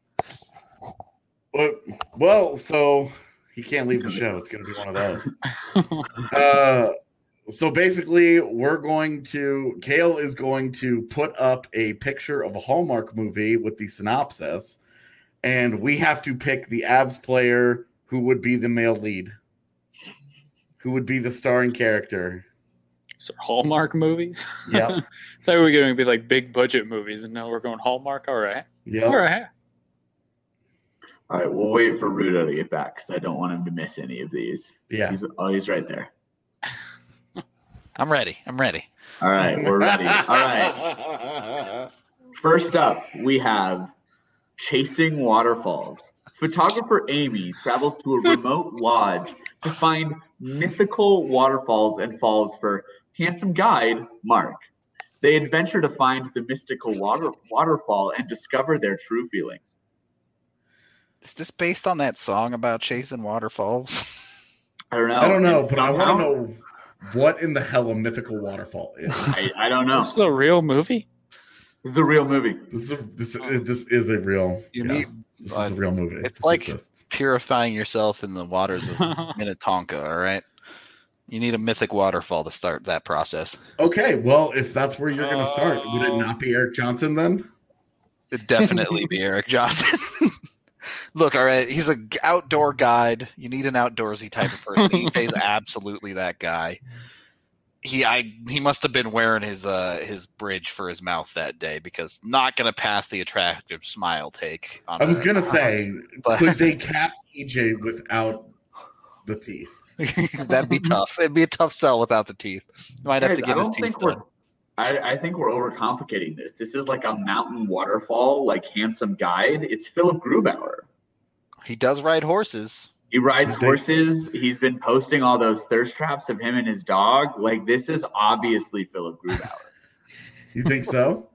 Well, so he can't leave the show. It's going to be one of those. So basically, Kale is going to put up a picture of a Hallmark movie with the synopsis, and we have to pick the Avs player who would be the male lead, who would be the starring character. So Hallmark movies? Yep. I thought we were going to be like big budget movies, and now we're going Hallmark. All right. Yep. All right. All right, we'll wait for Rudo to get back because I don't want him to miss any of these. Yeah. He's right there. I'm ready. All right, we're ready. All right. First up, we have Chasing Waterfalls. Photographer Amy travels to a remote lodge to find mythical waterfalls and falls for handsome guide Mark. They adventure to find the mystical waterfall and discover their true feelings. Is this based on that song about chasing waterfalls? I don't know. I don't know, And but I want to know what in the hell a mythical waterfall is. I don't know. This is a real movie? This is a real movie. This is a real. This is a real movie. It's This like exists. purifying yourself in the waters of Minnetonka, all right? You need a mythic waterfall to start that process. Okay, well, if that's where you're going to start, would it not be Eric Johnson then? It'd definitely be Eric Johnson. Look, all right, he's an outdoor guide. You need an outdoorsy type of person. EJ's absolutely that guy. He must have been wearing his bridge for his mouth that day because not going to pass the attractive smile take. I was going to say, but- could they cast EJ without the teeth? That'd be tough. It'd be a tough sell without the teeth. You might have to get his teeth done. I think we're overcomplicating this. This is like a mountain waterfall, like handsome guide. It's Philip Grubauer. He does ride horses. He rides horses. He's been posting all those thirst traps of him and his dog. Like, this is obviously Philip Grubauer. You think so?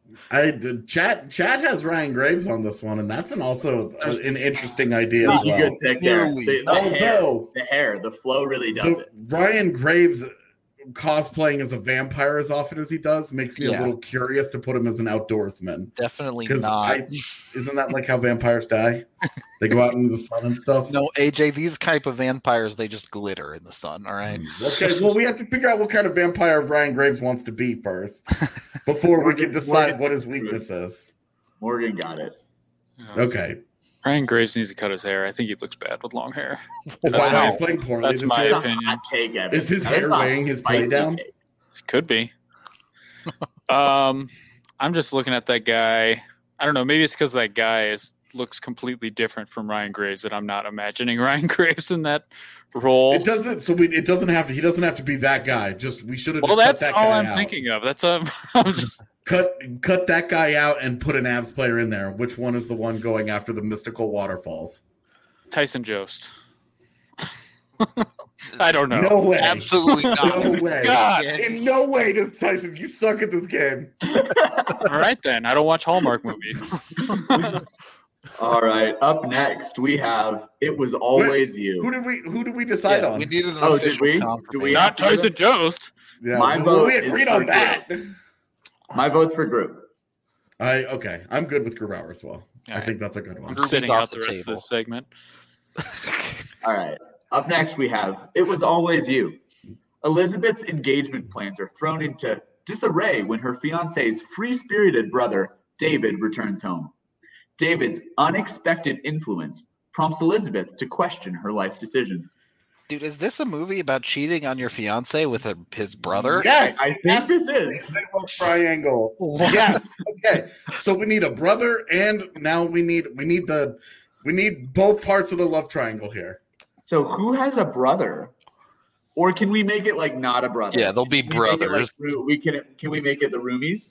Chad has Ryan Graves on this one, and that's also an interesting idea as well. Good pick there. The hair, the flow really does it. Ryan Graves cosplaying as a vampire as often as he does makes me a little curious to put him as an outdoorsman. Definitely not. Isn't that like how vampires die? They go out into the sun and stuff? No, AJ, these type of vampires, they just glitter in the sun, all right? Okay, well, we have to figure out what kind of vampire Ryan Graves wants to be first before we can decide what his weakness is. Morgan got it. Okay. Ryan Graves needs to cut his hair. I think he looks bad with long hair. Is that why he's playing poorly That's this my year? opinion. Hot take, Evan. Is his That hair not weighing his play spicy down? take. Could be. I'm just looking at that guy. I don't know. Maybe it's because that guy looks completely different from Ryan Graves that I'm not imagining Ryan Graves in that role. It doesn't. So he doesn't have to be that guy. We should have. Well, just that's cut that all guy I'm out. thinking of. That's I'm just Cut that guy out and put an Avs player in there. Which one is the one going after the mystical waterfalls? Tyson Jost. I don't know. No way. Absolutely not. No way. God. In no way does Tyson. You suck at this game. All right, then. I don't watch Hallmark movies. All right. Up next, we have It Was Always You. Who did we decide on? We needed an Oh, did official we? confirmation. Do we Not Tyson Jost. Yeah, My well, vote we is agreed for on that. My vote's for group. Okay. I'm good with Grubauer as well. I right. think that's a good one. I'm Groupie's sitting off out the the rest of table. this segment. All right. Up next, we have It Was Always You. Elizabeth's engagement plans are thrown into disarray when her fiancé's free-spirited brother, David, returns home. David's unexpected influence prompts Elizabeth to question her life decisions. Dude, is this a movie about cheating on your fiance with his brother? Yes, I think this is. Triangle. Yes. Okay. So we need a brother, and now we need both parts of the love triangle here. So who has a brother? Or can we make it like not a brother? Yeah, they'll be Can we make it brothers. can we make it the roomies?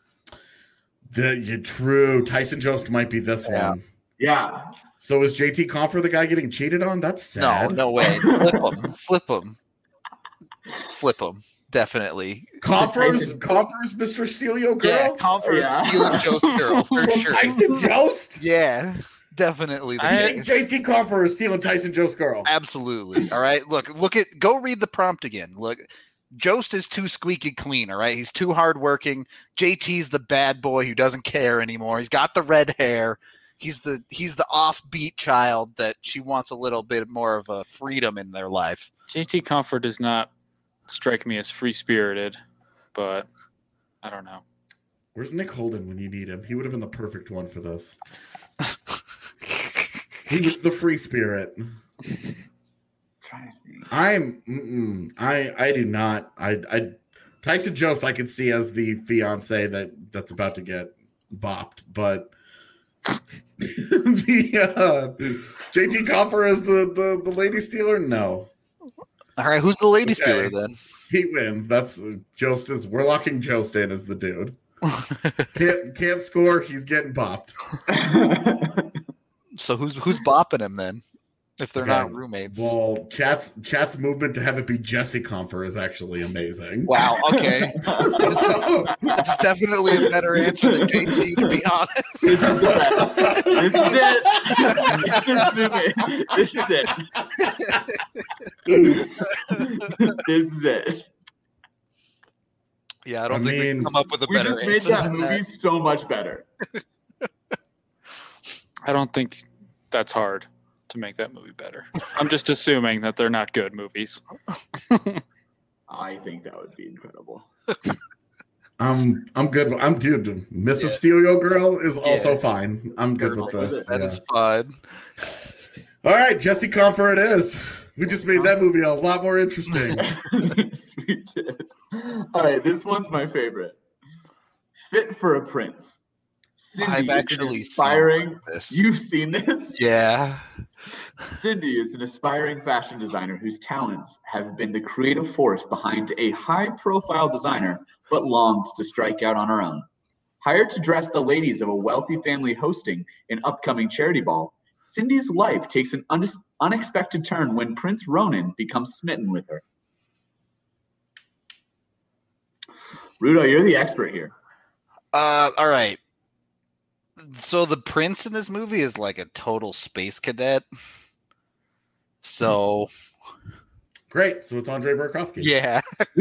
True. Tyson Jost might be this Yeah. one. Yeah. So is JT Confer the guy getting cheated on? That's sad. No way. Flip him. definitely. Conference, Mr. Steal Your Girl? Yeah, Conference Yeah. Steal Jost Girl, for From sure. Tyson Jost? Yeah, definitely. JT Confer is stealing Tyson Jost Girl. Absolutely. All right. Go read the prompt again. Look, Jost is too squeaky clean. All right. He's too hardworking. JT's the bad boy who doesn't care anymore. He's got the red hair. He's the offbeat child that she wants a little bit more of a freedom in their life. JT Comfort does not strike me as free spirited, but I don't know. Where's Nick Holden when you need him? He would have been the perfect one for this. He was the free spirit. I do not. Tyson Jost I could see as the fiance that's about to get bopped, but the JT Copper as the lady stealer. No. All right, who's the lady stealer then? He wins. That's Jost is. We're locking Jost in as the dude. Can't score. He's getting bopped. So who's bopping him then? If they're not roommates. Well, Chat's movement to have it be Jesse Comfer is actually amazing. Wow. Okay. That's definitely a better answer than JT, to be honest. This is the best. This is it. This is it. This is it. Yeah, I don't think we can come up with a We better just made answer that than movie so much better. I don't think that's hard to make that movie better. I'm just assuming that they're not good movies. I think that would be incredible. I'm good. Dude. Mrs. Steal Your Girl is also fine. I'm good with this. That is fun. All right, Jesse Comfer it is. We just made that movie a lot more interesting. We did. All right, this one's my favorite. Fit for a Prince. Cindy I've is actually an aspiring. seen this. You've seen this? Yeah. Cindy is an aspiring fashion designer whose talents have been the creative force behind a high-profile designer, but longs to strike out on her own. Hired to dress the ladies of a wealthy family hosting an upcoming charity ball, Cindy's life takes an unexpected turn when Prince Ronan becomes smitten with her. Rudo, you're the expert here. All right. So the prince in this movie is like a total space cadet. So Great. So it's Andre Burakovsky. yeah.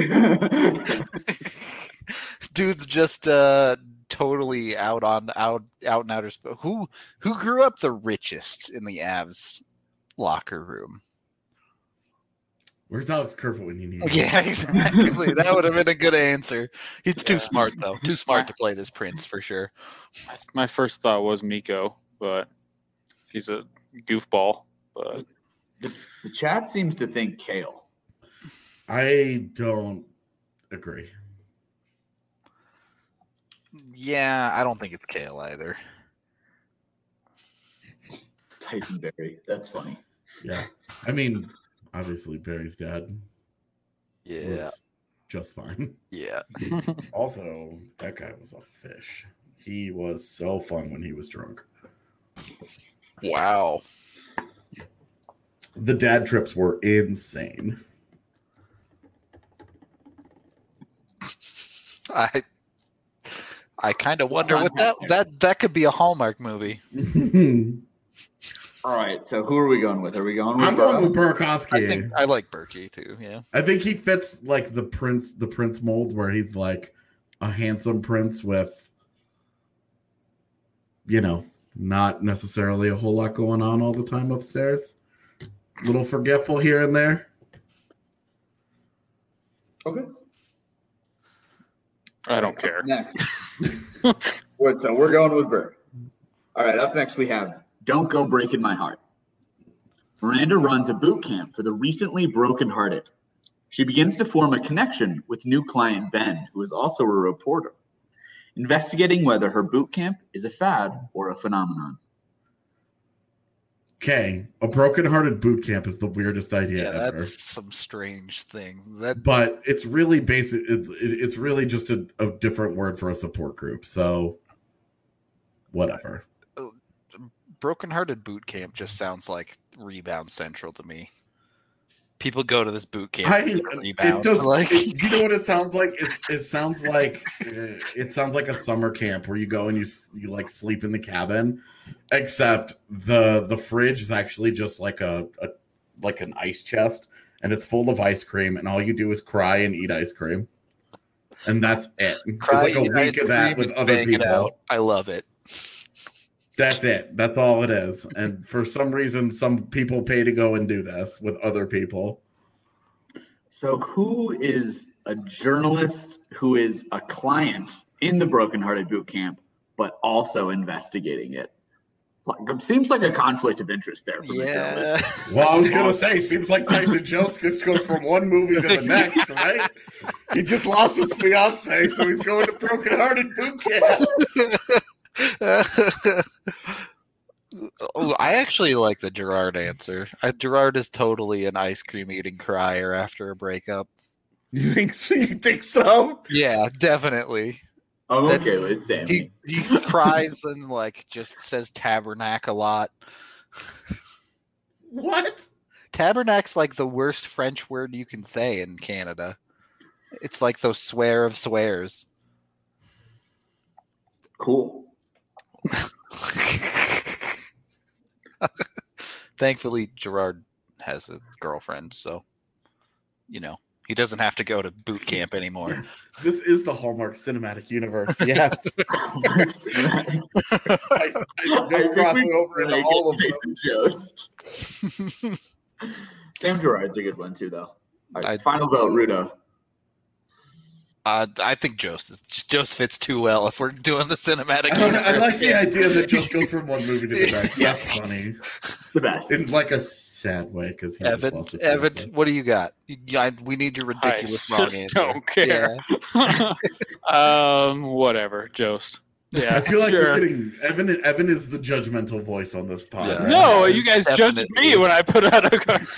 Dude's just totally out in outer space. Who grew up the richest in the Avs locker room? Where's Alex Kerfoot when you need him? Yeah, exactly. That would have been a good answer. He's too smart, though. Too smart to play this prince, for sure. My first thought was Miko, but he's a goofball. But The chat seems to think Kale. I don't agree. Yeah, I don't think it's Kale either. Tyson Berry. That's funny. Yeah. I mean, obviously Barry's dad Yeah. was just fine. Yeah. Also, that guy was a fish. He was so fun when he was drunk. Wow. The dad trips were insane. I kind of wonder what that could be a Hallmark movie. All right, so who are we going with? Are we going with I'm going with Burakovsky. I think I like Berkey too. Yeah. I think he fits like the prince mold where he's like a handsome prince with, not necessarily a whole lot going on all the time upstairs. Little forgetful here and there. Okay. I don't care. Next. Wait, so we're going with Burr. All right, up next we have Don't Go Breaking My Heart. Miranda runs a boot camp for the recently brokenhearted. She begins to form a connection with new client Ben, who is also a reporter, investigating whether her boot camp is a fad or a phenomenon. Okay, a brokenhearted boot camp is the weirdest idea ever. That's some strange thing. But it's really basic. It's really just a different word for a support group. So, whatever. Brokenhearted boot camp just sounds like Rebound Central to me. People go to this boot camp. It does. You know what it sounds like? It sounds like a summer camp where you go and you like sleep in the cabin, except the fridge is actually just like an ice chest, and it's full of ice cream, and all you do is cry and eat ice cream, and that's it. Cry, it's like a week of that with other people. I love it. That's it. That's all it is. And for some reason, some people pay to go and do this with other people. So who is a journalist who is a client in the Broken Hearted Boot Camp, but also investigating it? Seems like a conflict of interest there for the journalist. Well, I was going to say, seems like Tyson Jones just goes from one movie to the next, right? He just lost his fiance, so he's going to Broken Hearted Boot Camp. I actually like the Gerard answer. Gerard is totally an ice cream eating crier after a breakup. You think so? You think so? Yeah, definitely. I'm okay with Sammy. He cries and like just says tabernacle a lot. What? Tabernacle's like the worst French word you can say in Canada. It's like those swear of swears. Cool. Thankfully, Gerard has a girlfriend, so he doesn't have to go to boot camp anymore. Yes. This is the Hallmark Cinematic Universe. Yes. I crossing over into all of them. Sam Gerard's a good one too, though. Right, final vote, Rudo. I think Jost fits too well if we're doing the cinematic. I like the idea that Jost goes from one movie to the next. Yeah. That's funny. The best. In like a sad way, because Evan, what do you got? We need your ridiculous wrong answer. Don't care. Yeah. Whatever, Jost. Yeah, I feel like you're getting Evan is the judgmental voice on this pod. Yeah. Right? No, you guys judged me when I put out a card.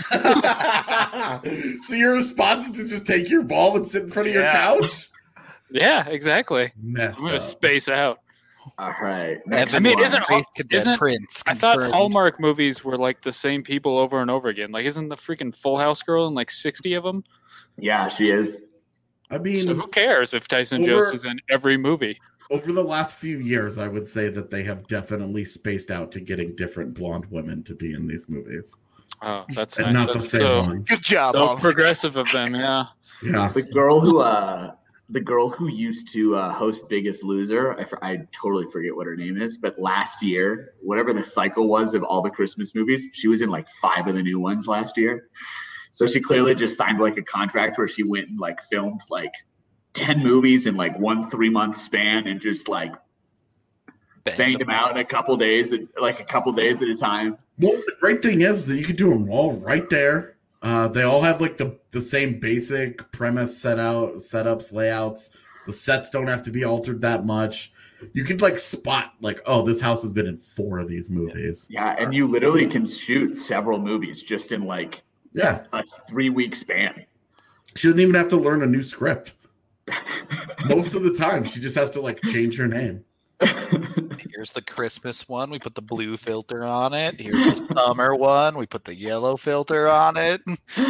So your response is to just take your ball and sit in front of your couch? Yeah, exactly. Messed I'm gonna up. space out. All right. I mean, isn't Prince? I thought Hallmark movies were like the same people over and over again. Like, isn't the freaking Full House girl in like 60 of them? Yeah, she is. I mean, so who cares if Tyson Jost is in every movie? Over the last few years, I would say that they have definitely spaced out to getting different blonde women to be in these movies. Oh, that's and nice. not That's the same one. Good job, so progressive of them. Yeah. Yeah. The girl who used to host Biggest Loser, I totally forget what her name is, but last year, whatever the cycle was of all the Christmas movies, she was in like 5 of the new ones last year. So she clearly just signed like a contract where she went and like filmed like 10 movies in like 1 3-month span and just like banged them out in a couple days at a time. Well, the great thing is that you can do them all right there. They all have like the same basic premise setups, layouts. The sets don't have to be altered that much. You could like spot like, oh, this house has been in 4 of these movies. Yeah, and you literally can shoot several movies just in like a 3-week span. She doesn't even have to learn a new script. Most of the time, she just has to like change her name. Here's the Christmas one. We put the blue filter on it. Here's the summer one. We put the yellow filter on it.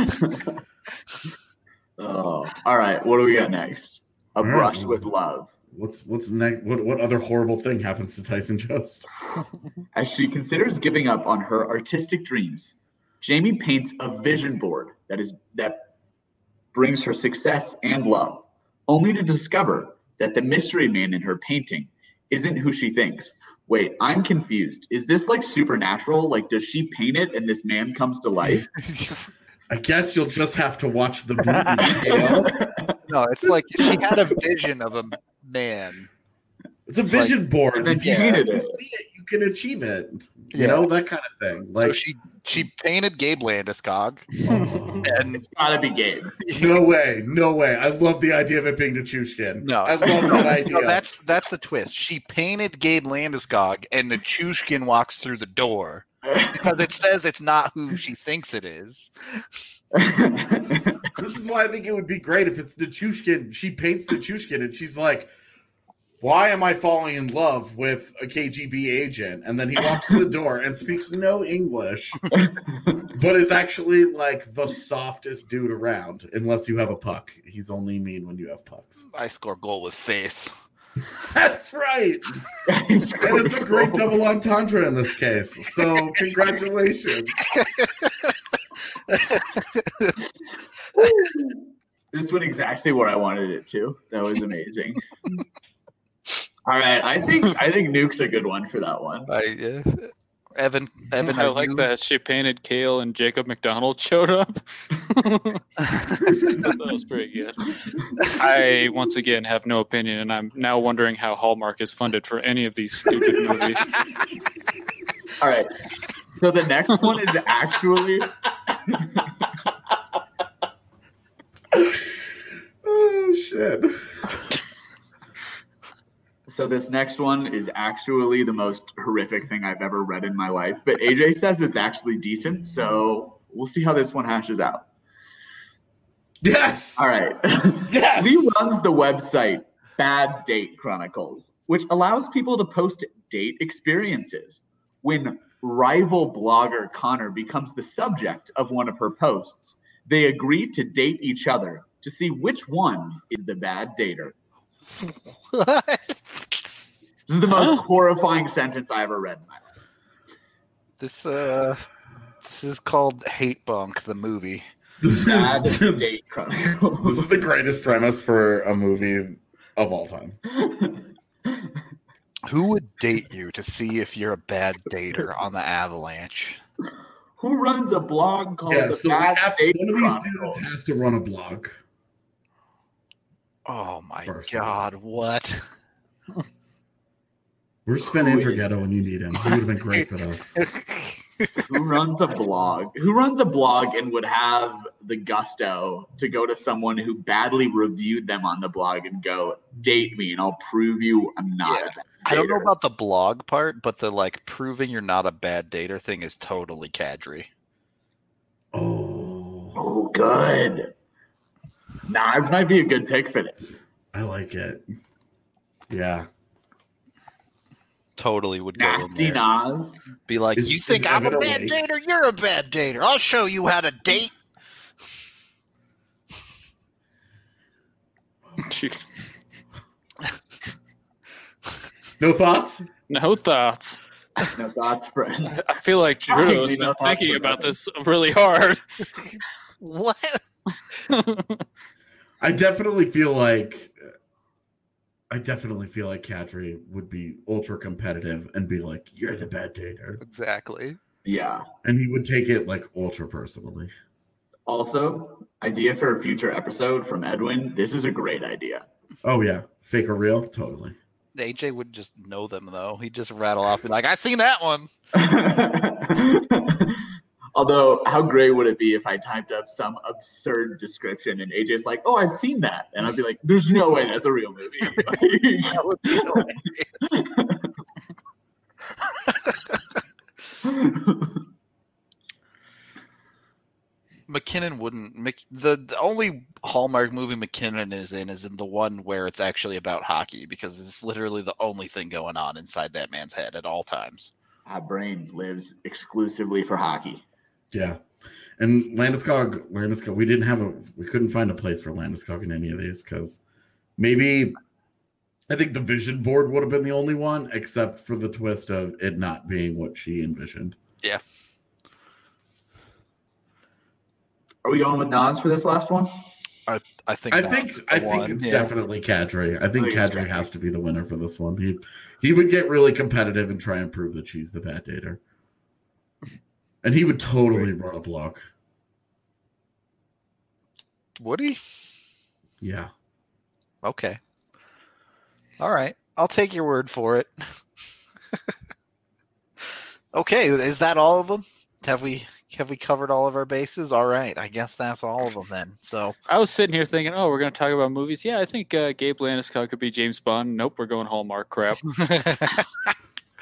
Oh, all right. What do we got next? A Brush with Love. What's next? What other horrible thing happens to Tyson Jost? As she considers giving up on her artistic dreams, Jamie paints a vision board that brings her success and love, only to discover that the mystery man in her painting isn't who she thinks. Wait, I'm confused. Is this like supernatural? Like, does she paint it and this man comes to life? I guess you'll just have to watch the movie. No, it's like she had a vision of a man. It's a vision board. And then she painted it. See it, you can achieve it. You know, that kind of thing. Like, so she painted Gabe Landeskog. And it's gotta be Gabe. No way. I love the idea of it being Nichushkin. No, I love that idea. No, that's the twist. She painted Gabe Landeskog, and Nichushkin walks through the door because it says it's not who she thinks it is. This is why I think it would be great if it's Nichushkin. She paints Nichushkin, and she's like, why am I falling in love with a KGB agent? And then he walks to the door and speaks no English, but is actually like the softest dude around, unless you have a puck. He's only mean when you have pucks. I score goal with face. That's right. And it's a great double entendre in this case. So congratulations. This went exactly where I wanted it to. That was amazing. All right, I think Nuke's a good one for that one. Evan, I like that she painted Kale and Jacob McDonald showed up. That was pretty good. I once again have no opinion, and I'm now wondering how Hallmark is funded for any of these stupid movies. All right, so the next one is actually. Oh shit. So this next one is actually the most horrific thing I've ever read in my life. But AJ says it's actually decent, so we'll see how this one hashes out. Yes. All right. Yes. Lee runs the website Bad Date Chronicles, which allows people to post date experiences. When rival blogger Connor becomes the subject of one of her posts, they agree to date each other to see which one is the bad dater. What? This is the most horrifying sentence I ever read in my life. This is called Hate Bunk, the movie. Bad Date Chronicles. This is the greatest premise for a movie of all time. Who would date you to see if you're a bad dater on the Avalanche? Who runs a blog called Yeah, the so Bad Date one of these Chronicles? dudes has to run a blog. Oh my First. God! What? Where's Finn Andrighetto when you need him? He would have been great for this. Who runs a blog? Who runs a blog and would have the gusto to go to someone who badly reviewed them on the blog and go, date me and I'll prove you I'm not a bad dater. I don't know about the blog part, but the like proving you're not a bad dater thing is totally Kadri. Oh, good. Nas might be a good pick for this. I like it. Yeah. Totally would go in Nasty there. Nas. Be like, Is- you is think I'm a Evan bad awake? dater? You're a bad dater. I'll show you how to date. No thoughts? No thoughts. No thoughts, friend. I feel like Drew Shockingly, has been no thoughts thinking for about Evan. this really hard. What? I definitely feel like Kadri would be ultra competitive and be like, "You're the bad dater," Exactly. Yeah. and he would take it like ultra personally. Also, idea for a future episode from Edwin. This is a great idea. Oh yeah, fake or real, totally. AJ would just know them though. He'd just rattle off, be like, "I seen that one." Although, how great would it be if I typed up some absurd description and AJ's like, "Oh, I've seen that," and I'd be like, "There's no way that's a real movie." That would be hilarious. McKinnon wouldn't. The only Hallmark movie McKinnon is in the one where it's actually about hockey, because it's literally the only thing going on inside that man's head at all times. Our brain lives exclusively for hockey. Yeah, and Landeskog, we couldn't find a place for Landeskog in any of these because maybe I think the vision board would have been the only one, except for the twist of it not being what she envisioned. Yeah. Are we going with Nas for this last one? I think it's definitely Kadri. I think I think it's Kadri Kadri. has to be the winner for this one. He would get really competitive and try and prove that she's the bad dater. And he would totally run a blog. Would he? Yeah. Okay. All right. I'll take your word for it. Okay, is that all of them? Have we covered all of our bases? All right. I guess that's all of them then. So I was sitting here thinking, oh, we're going to talk about movies. Yeah, I think Gabe Landeskog could be James Bond. Nope, we're going Hallmark crap.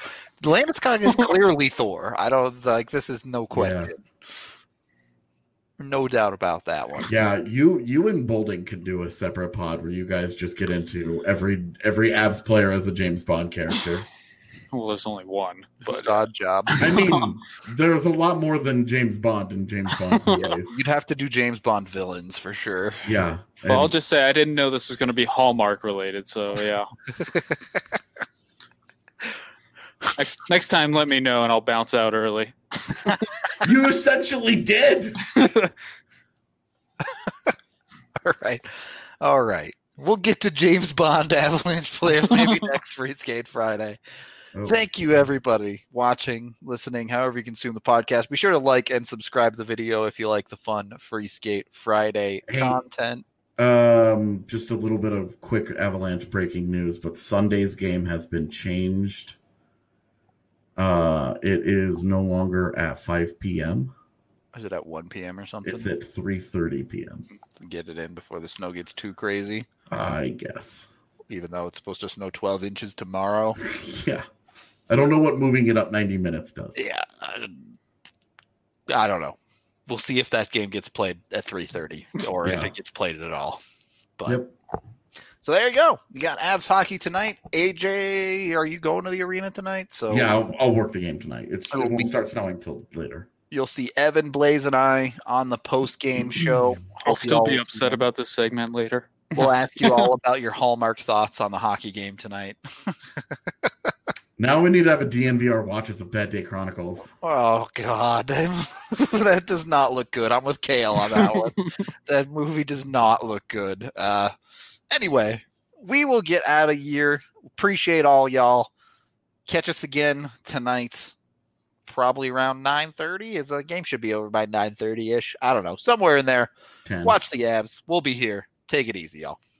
Landeskog is clearly Thor. I don't like this is no question. No doubt about that one. Yeah, you and Bolding could do a separate pod where you guys just get into every Avs player as a James Bond character. Well, there's only one, but It's odd job. I mean, there's a lot more than James Bond and James Bond PAs. You'd have to do James Bond villains for sure. Yeah. well, I'll just say I didn't know this was going to be Hallmark related. So yeah. Next time, let me know and I'll bounce out early. You essentially did. All right. We'll get to James Bond Avalanche players maybe next Free Skate Friday. Oh. Thank you, everybody, watching, listening, however you consume the podcast. Be sure to like and subscribe to the video if you like the fun Free Skate Friday content. Just a little bit of quick Avalanche breaking news, but Sunday's game has been changed. It is no longer at 5 p.m. Is it at 1 p.m. or something? It's at 3:30 p.m. Get it in before the snow gets too crazy, I guess. even though it's supposed to snow 12 inches tomorrow. Yeah. I don't know what moving it up 90 minutes does. Yeah. I don't know. We'll see if that game gets played at 3:30 or if Yeah. it gets played at all. But Yep. So there you go. We got Avs hockey tonight. AJ, are you going to the arena tonight? So Yeah, I'll work the game tonight. It Oh, won't start snowing till later. you'll see Evan, Blaze, and I on the post-game show. I'll Hope you still all- be upset about this segment later. We'll ask you all about your Hallmark thoughts on the hockey game tonight. Now we need to have a DNVR watches of Bad Day Chronicles. Oh, God. That does not look good. I'm with Kale on that one. That movie does not look good. Anyway, we will get out of here. Appreciate all y'all. Catch us again tonight, probably around 9:30. The game should be over by 9:30-ish. I don't know. Somewhere in there. 10. Watch the Avs. We'll be here. Take it easy, y'all.